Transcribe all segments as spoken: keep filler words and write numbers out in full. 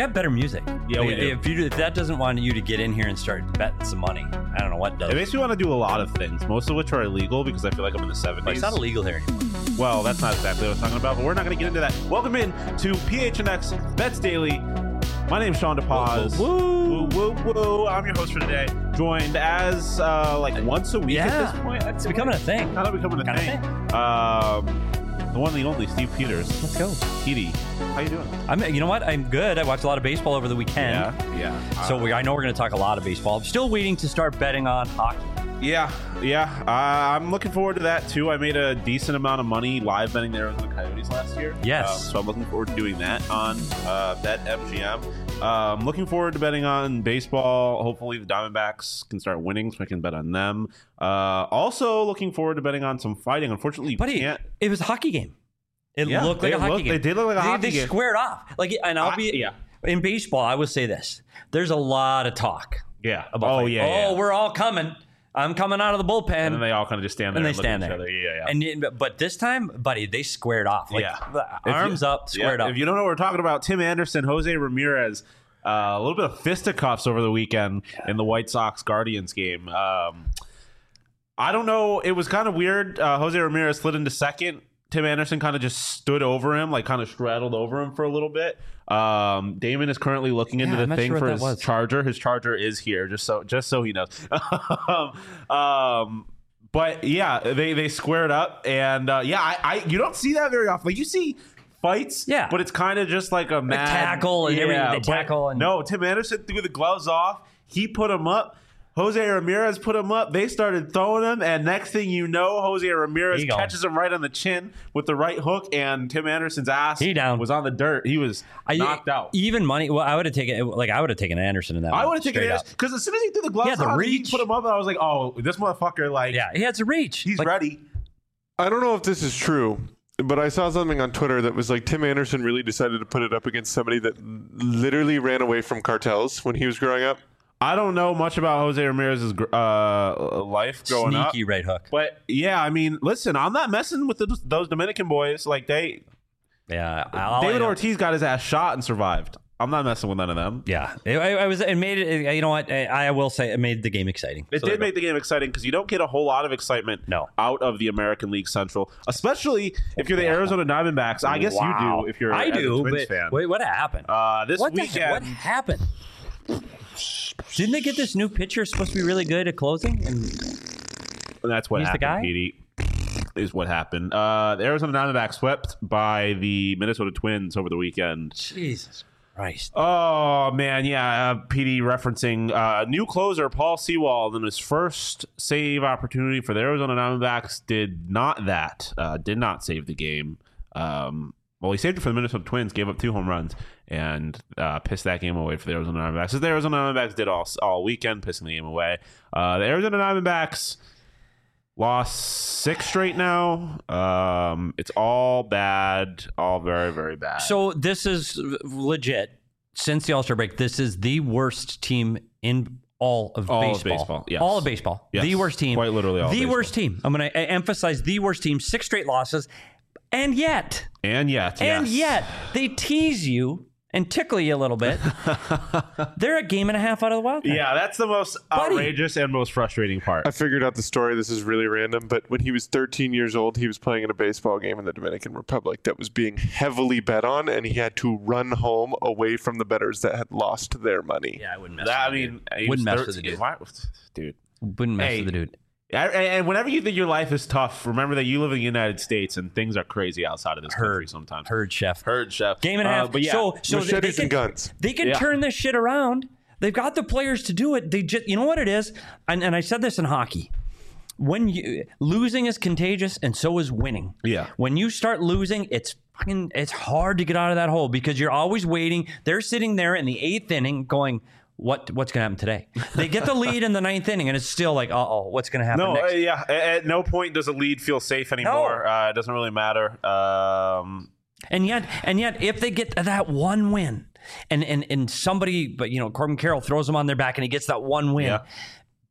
got better music. Yeah, like, we do. If, you, if that doesn't want you to get in here and start betting some money, I don't know what does. It makes me want to do a lot of things, most of which are illegal because I feel like I'm in the seventies. But it's not illegal here anymore. Well, that's not exactly what I was talking about, but we're not going to get into that. Welcome in to P H N X Bets Daily. My name's Sean DePaz. Woo, woo, woo, woo. I'm your host for today. Joined as uh, like once a week Yeah. at this point. It's becoming a thing. Kind of becoming a Kinda thing. thing. Um, the one, the only, Steve Peters. Let's go. Petey, how you doing? I'm. You know what? I'm good. I watched a lot of baseball over the weekend. Yeah, yeah. So Uh, we, I know we're going to talk a lot of baseball. I'm still waiting to start betting on hockey. Yeah, yeah. Uh, I'm looking forward to that too. I made a decent amount of money live betting the Arizona Coyotes last year. Yes. Uh, so I'm looking forward to doing that on uh, Bet M G M. Um, looking forward to betting on baseball. Hopefully the Diamondbacks can start winning so I can bet on them. Uh, also looking forward to betting on some fighting. Unfortunately, you Buddy, can't. it was a hockey game. It Yeah, looked like they a hockey looked- game. they did look like a they, hockey they game. squared off. Like, and I'll I- be yeah. in baseball. I would say this: there's a lot of talk Yeah. about. oh, fighting. yeah, Oh, yeah. we're all coming. I'm coming out of the bullpen. And then they all kind of just stand there and they and look stand at each there. other. Yeah, yeah. And it- but this time, buddy, they squared off. Like, Yeah. the If arms you- up, squared yeah, up. If you don't know what we're talking about, Tim Anderson, Jose Ramirez, uh, a little bit of fisticuffs over the weekend in the White Sox Guardians game. Um, I don't know. It was kind of weird. Uh, Jose Ramirez slid into second. Tim Anderson kind of just stood over him, like kind of straddled over him for a little bit. Um, Damon is currently looking into Yeah, I'm the not thing sure for what his that was. charger. His charger is here, just so just so he knows. um, but yeah, they they squared up, and uh, yeah, I, I you don't see that very often. Like you see fights, Yeah. but it's kind of just like a mad tackle and everything, they but tackle and- no, Tim Anderson threw the gloves off. He put him up. Jose Ramirez put him up. They started throwing him, and next thing you know, Jose Ramirez He gone. catches him right on the chin with the right hook, and Tim Anderson's ass He down. was on the dirt. He was I- knocked out. Even money. Well, I would have taken. Like I would have taken Anderson in that. I one, would have taken straight Anderson up. because as soon as he threw the gloves Yeah, the on, reach. he put him up, and I was like, "Oh, this motherfucker! Like, Yeah, he had some reach. he's Like, ready." I don't know if this is true, but I saw something on Twitter that was like Tim Anderson really decided to put it up against somebody that literally ran away from cartels when he was growing up. I don't know much about Jose Ramirez's uh, life growing up. Sneaky right hook. But yeah, I mean, listen, I'm not messing with the, those Dominican boys. Like they, Yeah, all I David know- Ortiz got his ass shot and survived. I'm not messing with none of them. Yeah, it, I, I was. It made it. You know what? I, I will say it made the game exciting. It So did there make the game exciting because you don't get a whole lot of excitement No. out of the American League Central, especially if you're the Arizona Diamondbacks. I guess Wow. you do if you're I as do. a Twins But fan. wait, what happened? Uh, this what the weekend, heck- What happened? Didn't they get this new pitcher supposed to be really good at closing? And and that's what He's the happened, guy? Petey, is what happened. Uh, the Arizona Diamondbacks swept by the Minnesota Twins over the weekend. Jesus Christ! Oh man, yeah. Uh, P D referencing uh, new closer Paul Sewald in his first save opportunity for the Arizona Diamondbacks did not that. Uh, did not save the game. Um, well, he saved it for the Minnesota Twins, gave up two home runs, and uh, pissed that game away for the Arizona Diamondbacks. As the Arizona Diamondbacks did all all weekend, pissing the game away. Uh, the Arizona Diamondbacks lost six straight now. Um, it's all bad, all very very bad. So this is legit. Since the All-Star break, this is the worst team in all of All of baseball. baseball, yes. All of baseball. Yes, The worst team. quite literally all of The baseball. worst team. I'm going to emphasize the worst team. Six straight losses. And yet, and yet, and yes. yet, they tease you and tickle you a little bit. They're a game and a half out of the wild card. Yeah, that's the most Buddy. outrageous and most frustrating part. I figured out the story. This is really random, but when he was thirteen years old, he was playing in a baseball game in the Dominican Republic that was being heavily bet on, and he had to run home away from the bettors that had lost their money. Yeah, I wouldn't mess That, I with the mean, dude. he Wouldn't was mess with the thirteen. dude. Why- dude. Wouldn't mess Hey. with the dude. And- And whenever you think your life is tough, remember that you live in the United States and things are crazy outside of this country Heard. sometimes. Heard, chef. Heard, chef. Game and a Uh, half. but yeah, so, so they, they Machetes can, and guns. They can Yeah. turn this shit around. They've got the players to do it. They just, you know what it is? And, and I said this in hockey. When you losing is contagious, and so is winning. Yeah. When you start losing, it's fucking, it's hard to get out of that hole because you're always waiting. They're sitting there in the eighth inning, going, "What? What's going to happen today?" They get the lead in the ninth inning, and it's still like, "Uh oh, what's going to happen no, next?" uh, yeah. At, at no point does a lead feel safe anymore. No. Uh, it doesn't really matter. Um, And yet, and yet, if they get that one win, and and and somebody, but you know, Corbin Carroll throws them on their back, and he gets that one win. Yeah.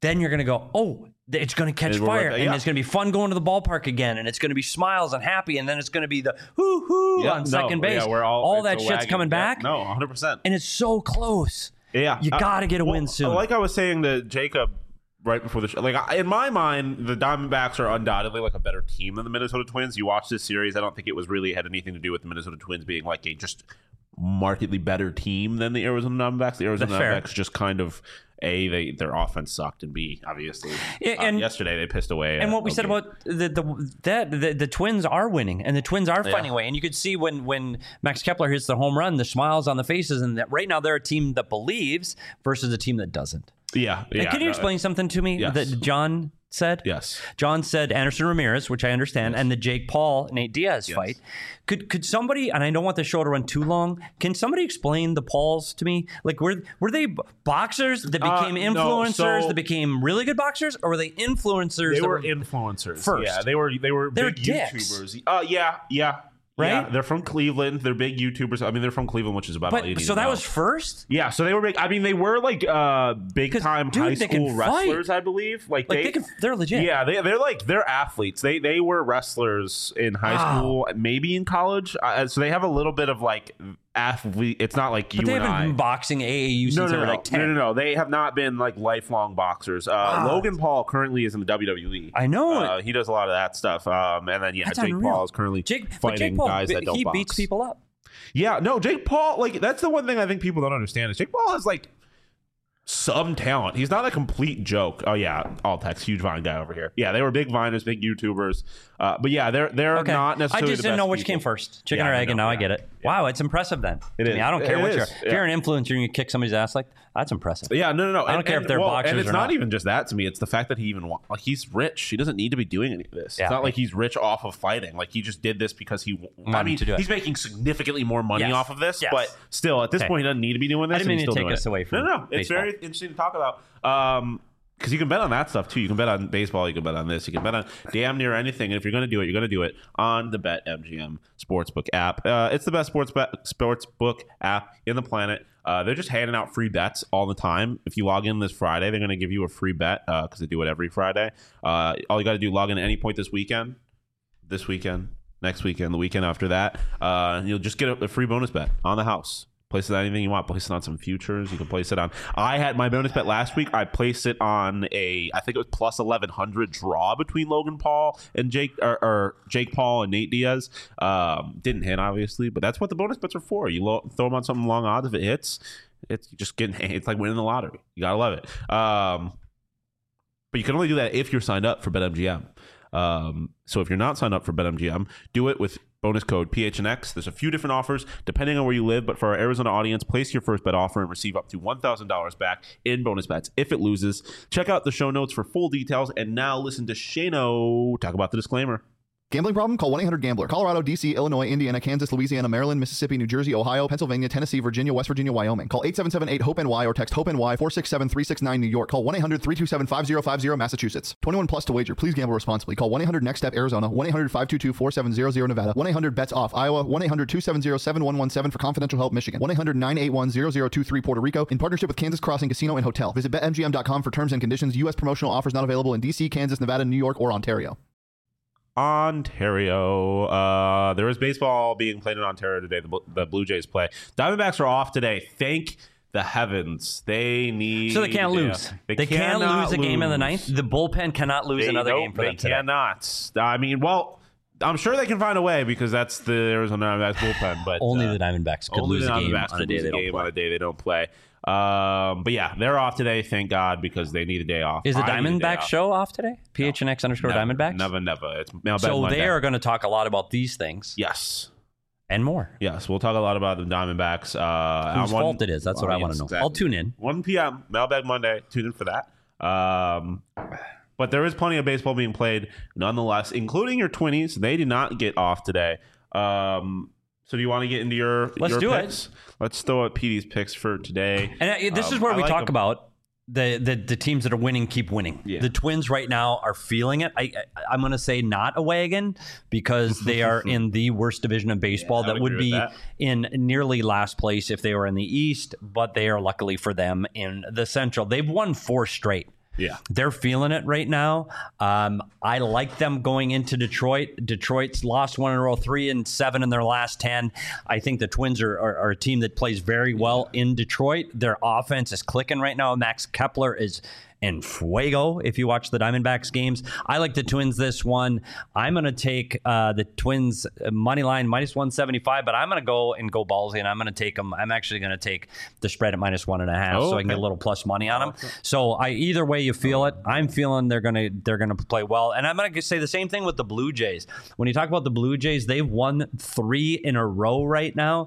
then you're going to go, oh, it's going to catch And we're fire, like, and yeah. it's going to be fun going to the ballpark again, and it's going to be smiles and happy, and then it's going to be the hoo hoo Yeah, on no, second base. Yeah, we're all, all it's that a shit's wagon. coming Yeah, back. No, one hundred percent. And it's so close. Yeah, You Uh, got to get a well, win soon. Like I was saying to Jacob right before the show, like I- in my mind, the Diamondbacks are undoubtedly like a better team than the Minnesota Twins. You watch this series, I don't think it was really had anything to do with the Minnesota Twins being like a just markedly better team than the Arizona Diamondbacks. The Arizona That's fair. Diamondbacks just kind of A, they their offense sucked, and B, obviously, Yeah, uh, and- yesterday they pissed away. And uh, what we said okay. about the the that the, the Twins are winning, and the Twins are finding a way. And you could see when when Max Kepler hits the home run, the smiles on the faces, and that right now they're a team that believes versus a team that doesn't. yeah, And yeah. can you no, explain something to me Yes. that John said? Yes. John said Anderson Ramirez, which I understand, and the Jake Paul Nate Diaz Yes. fight. Could could somebody, and I don't want the show to run too long, can somebody explain the Pauls to me? Like were were they b- boxers that Uh, became no, influencers so- that became really good boxers, or were they influencers? They that were influencers first. Yeah, they were they were They're big dicks. YouTubers. Uh, yeah, yeah, Right? Yeah, they're from Cleveland. They're big YouTubers. I mean, they're from Cleveland, which is about all you But need so to that know. was first. Yeah, so they were big. I mean, they were like uh, big 'Cause, time dude, high they can school fight. wrestlers, I believe. Like, Like they, they can, they're legit. yeah, they they're like they're athletes. They they were wrestlers in high Wow. school, maybe in college. Uh, so they have a little bit of like athlete. It's not like But you they and haven't I. been boxing A A U since No, they no, were no. like ten. no, no, no. They have not been like lifelong boxers. Uh, Wow. Logan Paul currently is in the W W E. I know Uh, he does a lot of that stuff. Um, and then yeah, That's Jake unreal. Paul is currently Jake, but fighting Jake Paul, guys that don't he box. beats people up. Yeah, no, Jake Paul. Like that's the one thing I think people don't understand is Jake Paul is like some talent. He's not a complete joke. Oh yeah, Altex, huge Vine guy over here. Yeah, they were big Viners, big YouTubers. Uh, but yeah, they're they're Okay. not I necessarily. just the didn't know best which people. came first, chicken Yeah, or I egg, and know, now I yeah. get it. Yeah. Wow, it's impressive then. It I mean, is. I don't care It what is. you're. If Yeah. you're an influencer and you kick somebody's ass like that's impressive. Yeah, no, no, no. I don't And- care and- if they're well, boxers and it's or not not. even just that to me. It's the fact that he even wa- like he's rich. He doesn't need to be doing any of this. Yeah. It's not like he's rich off of fighting. Like he just did this because he. I Wanted mean, to do it. he's making significantly more money Yes. off of this, Yes. but still, at this Okay. point, he doesn't need to be doing this. I didn't and mean he's to still take doing us it. away from No, no, no. It's baseball. very interesting to talk about. Um, because you can bet on that stuff too. You can bet on baseball. You can bet on this. You can bet on damn near anything. And if you're going to do it, you're going to do it on the BetMGM Sportsbook app. Uh, it's the best sports bet, sportsbook app in the planet. Uh, they're just handing out free bets all the time. If you log in this Friday, they're going to give you a free bet because they do it every Friday. Uh, all you got to do, log in at any point this weekend, this weekend, next weekend, the weekend after that. Uh, and you'll just get a, a free bonus bet on the house. Place it on anything you want. Place it on some futures. You can place it on. I had my bonus bet last week. I placed it on a, I think it was plus eleven hundred draw between Logan Paul and Jake, or, or Jake Paul and Nate Diaz. Um, didn't hit obviously, but that's what the bonus bets are for. You lo- throw them on something long odds. If it hits, it's just getting. It's like winning the lottery. You gotta love it. Um, but you can only do that if you're signed up for BetMGM. Um, so if you're not signed up for BetMGM, do it with bonus code P H N X. There's a few different offers depending on where you live, but for our Arizona audience, place your first bet offer and receive up to one thousand dollars back in bonus bets if it loses. Check out the show notes for full details, and now listen to Shano talk about the disclaimer. Gambling problem? Call one eight hundred gambler. Colorado, D C, Illinois, Indiana, Kansas, Louisiana, Maryland, Mississippi, New Jersey, Ohio, Pennsylvania, Tennessee, Virginia, West Virginia, Wyoming. Call eight seven seven eight hope N Y or text HOPE-NY four six seven three six nine New York. Call one eight hundred three two seven five zero five zero Massachusetts. twenty-one plus to wager. Please gamble responsibly. Call one eight hundred next step Arizona. one eight hundred five two two four seven zero zero Nevada. one eight hundred bets off Iowa. one eight hundred two seven zero seven one one seven for confidential help Michigan. one eight hundred nine eight one zero zero two three Puerto Rico. In partnership with Kansas Crossing Casino and Hotel. Visit bet M G M dot com for terms and conditions. U S promotional offers not available in D C, Kansas, Nevada, New York, or Ontario. Ontario. Uh, there is baseball being played in Ontario today. The, the Blue Jays play. Diamondbacks are off today. Thank the heavens. They need. So they can't yeah, lose. They, They, can't cannot lose a game in the lose. ninth. The bullpen cannot lose They, another nope, game for they them today. cannot. I mean, well, I'm sure they can find a way because that's the Arizona Diamondbacks bullpen. But Only uh, the Diamondbacks could only lose the a game Diamondbacks on a could day lose they a don't game play. on a day they don't play. Um, but yeah, they're off today. Thank God because they need a day off. Is the I need a day Diamondbacks off. show off today? P H N X underscore Never, Diamondbacks? Never, never. It's mailbag So Monday. they are going to talk a lot about these things Yes. and more. Yes, we'll talk a lot about the Diamondbacks. Uh, Whose on one- fault it is. That's what Well, I want yes, to know. exactly. I'll tune in. one p.m. Mailbag Monday. Tune in for that. Um, but there is plenty of baseball being played nonetheless, including your Twinnies. They did not get off today. Um, so do you want to get into your, Let's your do it. picks? Let's throw out P D's picks for today. And uh, this Um, is where I we like talk them. about the, the the teams that are winning keep winning. Yeah. The Twins right now are feeling it. I, I I'm going to say not a wagon because they are in the worst division of baseball. Yeah, I that would would agree be with that. in nearly last place if they were in the East, but they are luckily for them in the Central. They've won four straight. Yeah. They're feeling it right now. Um, I like them going into Detroit. Detroit's lost one in a row, three and seven in their last ten. I think the Twins are, are, are a team that plays very well in Detroit. Their offense is clicking right now. Max Kepler is in fuego if you watch the Diamondbacks games. I like the Twins this one. I'm going to take uh, the Twins money line minus one seventy-five, but I'm going to go and go ballsy, and I'm going to take them. I'm actually going to take the spread at minus one and a half, Oh, so I can okay. get a little plus money on them. So I either way you feel it, I'm feeling they're going to they're going to play well, and I'm going to say the same thing with the Blue Jays. When you talk about the Blue Jays, they've won three in a row right now,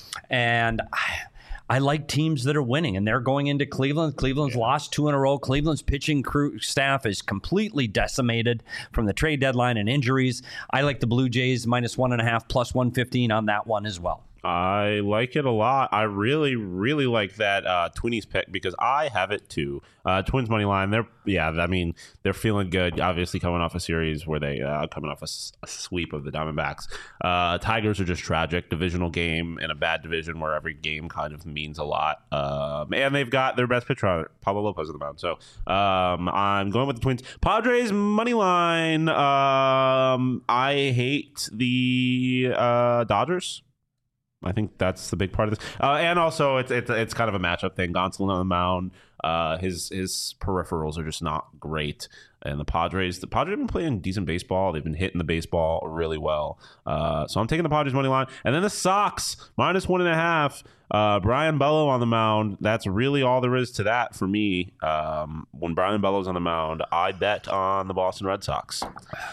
and I, I like teams that are winning, and they're going into Cleveland. Cleveland's yeah. lost two in a row. Cleveland's pitching crew staff is completely decimated from the trade deadline and injuries. I like the Blue Jays minus one and a half, plus one fifteen on that one as well. I like it a lot. I really, really like that uh, Twinnies pick because I have it too. Uh, Twins money line. They're yeah. I mean, they're feeling good. Obviously, coming off a series where they uh, coming off a, a sweep of the Diamondbacks. Uh, Tigers are just tragic. Divisional game in a bad division where every game kind of means a lot. Um, and they've got their best pitcher on it, Pablo Lopez on the mound. So um, I'm going with the Twins. Padres money line. Um, I hate the uh, Dodgers. I think that's the big part of this, uh, and also it's it's it's kind of a matchup thing. Gonsolin on the mound, uh, his his peripherals are just not great, and the Padres the Padres have been playing decent baseball. They've been hitting the baseball really well, uh, so I'm taking the Padres money line, and then the Sox minus one and a half. Uh, Brian Bello on the mound. That's really all there is to that for me. Um, when Brian Bello's on the mound, I bet on the Boston Red Sox.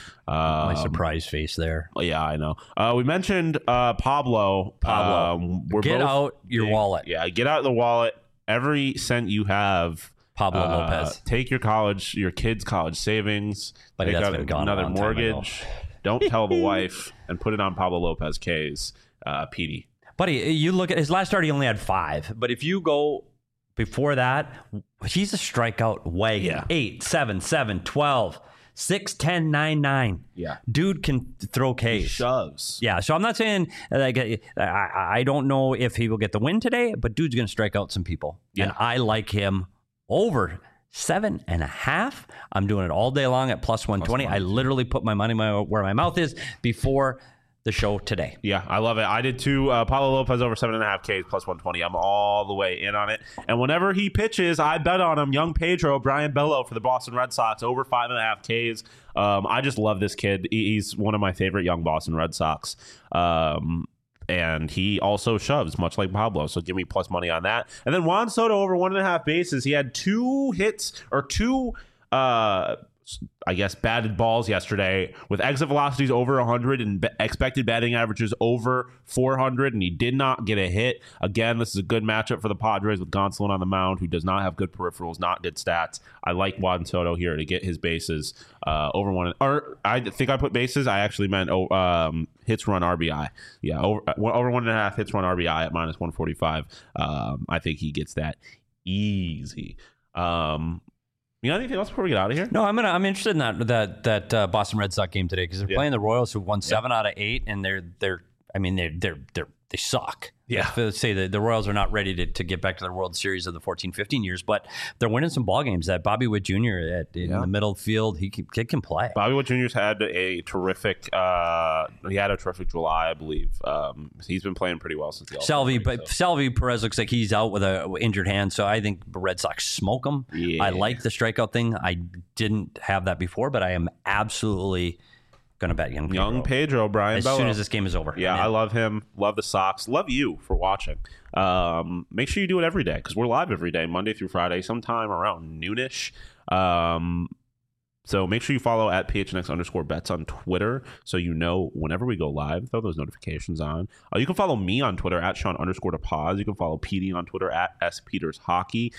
My Um, surprise face there. Yeah, I know. Uh, we mentioned uh, Pablo. Pablo, Um, we're get both, out your yeah, wallet. Yeah, get out the wallet. Every cent you have. Pablo uh, Lopez. Take your college, your kids' college savings. Buddy, take that's out been gone a another long time ago. mortgage. Don't tell the wife and put it on Pablo Lopez K's. Uh, P D. Buddy, you look at his last start, he only had five. But if you go before that, he's a strikeout wagon. Yeah. Eight, seven, seven, twelve, six, ten, nine, nine. Yeah. Dude can throw Ks. Shoves. Yeah, so I'm not saying like I, I don't know if he will get the win today, but dude's going to strike out some people. Yeah. And I like him over seven and a half. I'm doing it all day long at plus one twenty. I literally put my money my, where my mouth is before the show today. Yeah, I love it. I did too. Uh, Paulo Lopez over seven and a half Ks plus one twenty. I'm all the way in on it. And whenever he pitches, I bet on him. Young Pedro, Brian Bello for the Boston Red Sox over five and a half Ks. Um, I just love this kid. He- He's one of my favorite young Boston Red Sox. Um, and he also shoves, much like Pablo. So give me plus money on that. And then Juan Soto over one and a half bases. He had two hits or two, uh, I guess, batted balls yesterday with exit velocities over one hundred and be- expected batting averages over four hundred, and he did not get a hit. Again, this is a good matchup for the Padres with Gonsolin on the mound, who does not have good peripherals, not good stats. I like Juan Soto here to get his bases uh, over one. Or I think I put bases. I actually meant oh, um, hits, run, R B I. Yeah, over, over one and a half hits, run, R B I at minus one forty-five. Um, I think he gets that easy. Um, You got anything else before we get out of here? No, I'm gonna. I'm interested in that that that uh, Boston Red Sox game today because they're Yeah. playing the Royals, who won seven out of eight, and they're they're. I mean, they're they're they're they suck. Yeah. Let's say the, the Royals are not ready to, to get back to the World Series of the fourteen fifteen years, but they're winning some ball games. That Bobby Witt Junior at, in Yeah. the middle field, he can, kid can play. Bobby Witt Junior's had a terrific. Uh, he had a terrific July, I believe. Um, he's been playing pretty well since the All-Star Selvey, break, but so. Selvey Perez looks like he's out with a injured hand, so I think the Red Sox smoke him. Yeah. I like the strikeout thing. I didn't have that before, but I am absolutely going to bet young Pedro. Young Pedro, Brian as Bello. soon as this game is over. Yeah, I'm in. I love him. Love the Sox. Love you for watching. Um, make sure you do it every day because we're live every day, Monday through Friday, sometime around noonish. Um, so make sure you follow at P H N X underscore bets on Twitter so you know whenever we go live, throw those notifications on. Uh, you can follow me on Twitter at Sean underscore to pause. You can follow P D on Twitter at S Peters Hockey.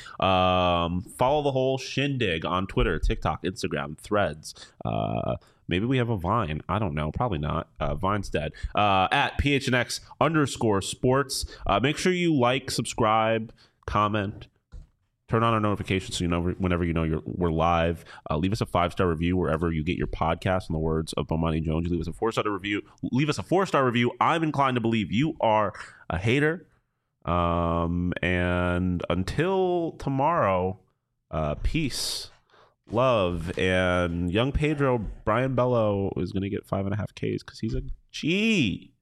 Um, follow the whole shindig on Twitter, TikTok, Instagram, Threads. Uh, Maybe we have a Vine. I don't know. Probably not. Uh, Vine's dead. Uh, at P H N X underscore sports. Uh, make sure you like, subscribe, comment, turn on our notifications so you know whenever you know you're, we're live. Uh, leave us a five-star review wherever you get your podcast. In the words of Bomani Jones, you leave us a four-star review. Leave us a four-star review. I'm inclined to believe you are a hater. Um, and until tomorrow, uh, peace, love. And young Pedro, Brian Bello, is going to get five and a half Ks because he's a G.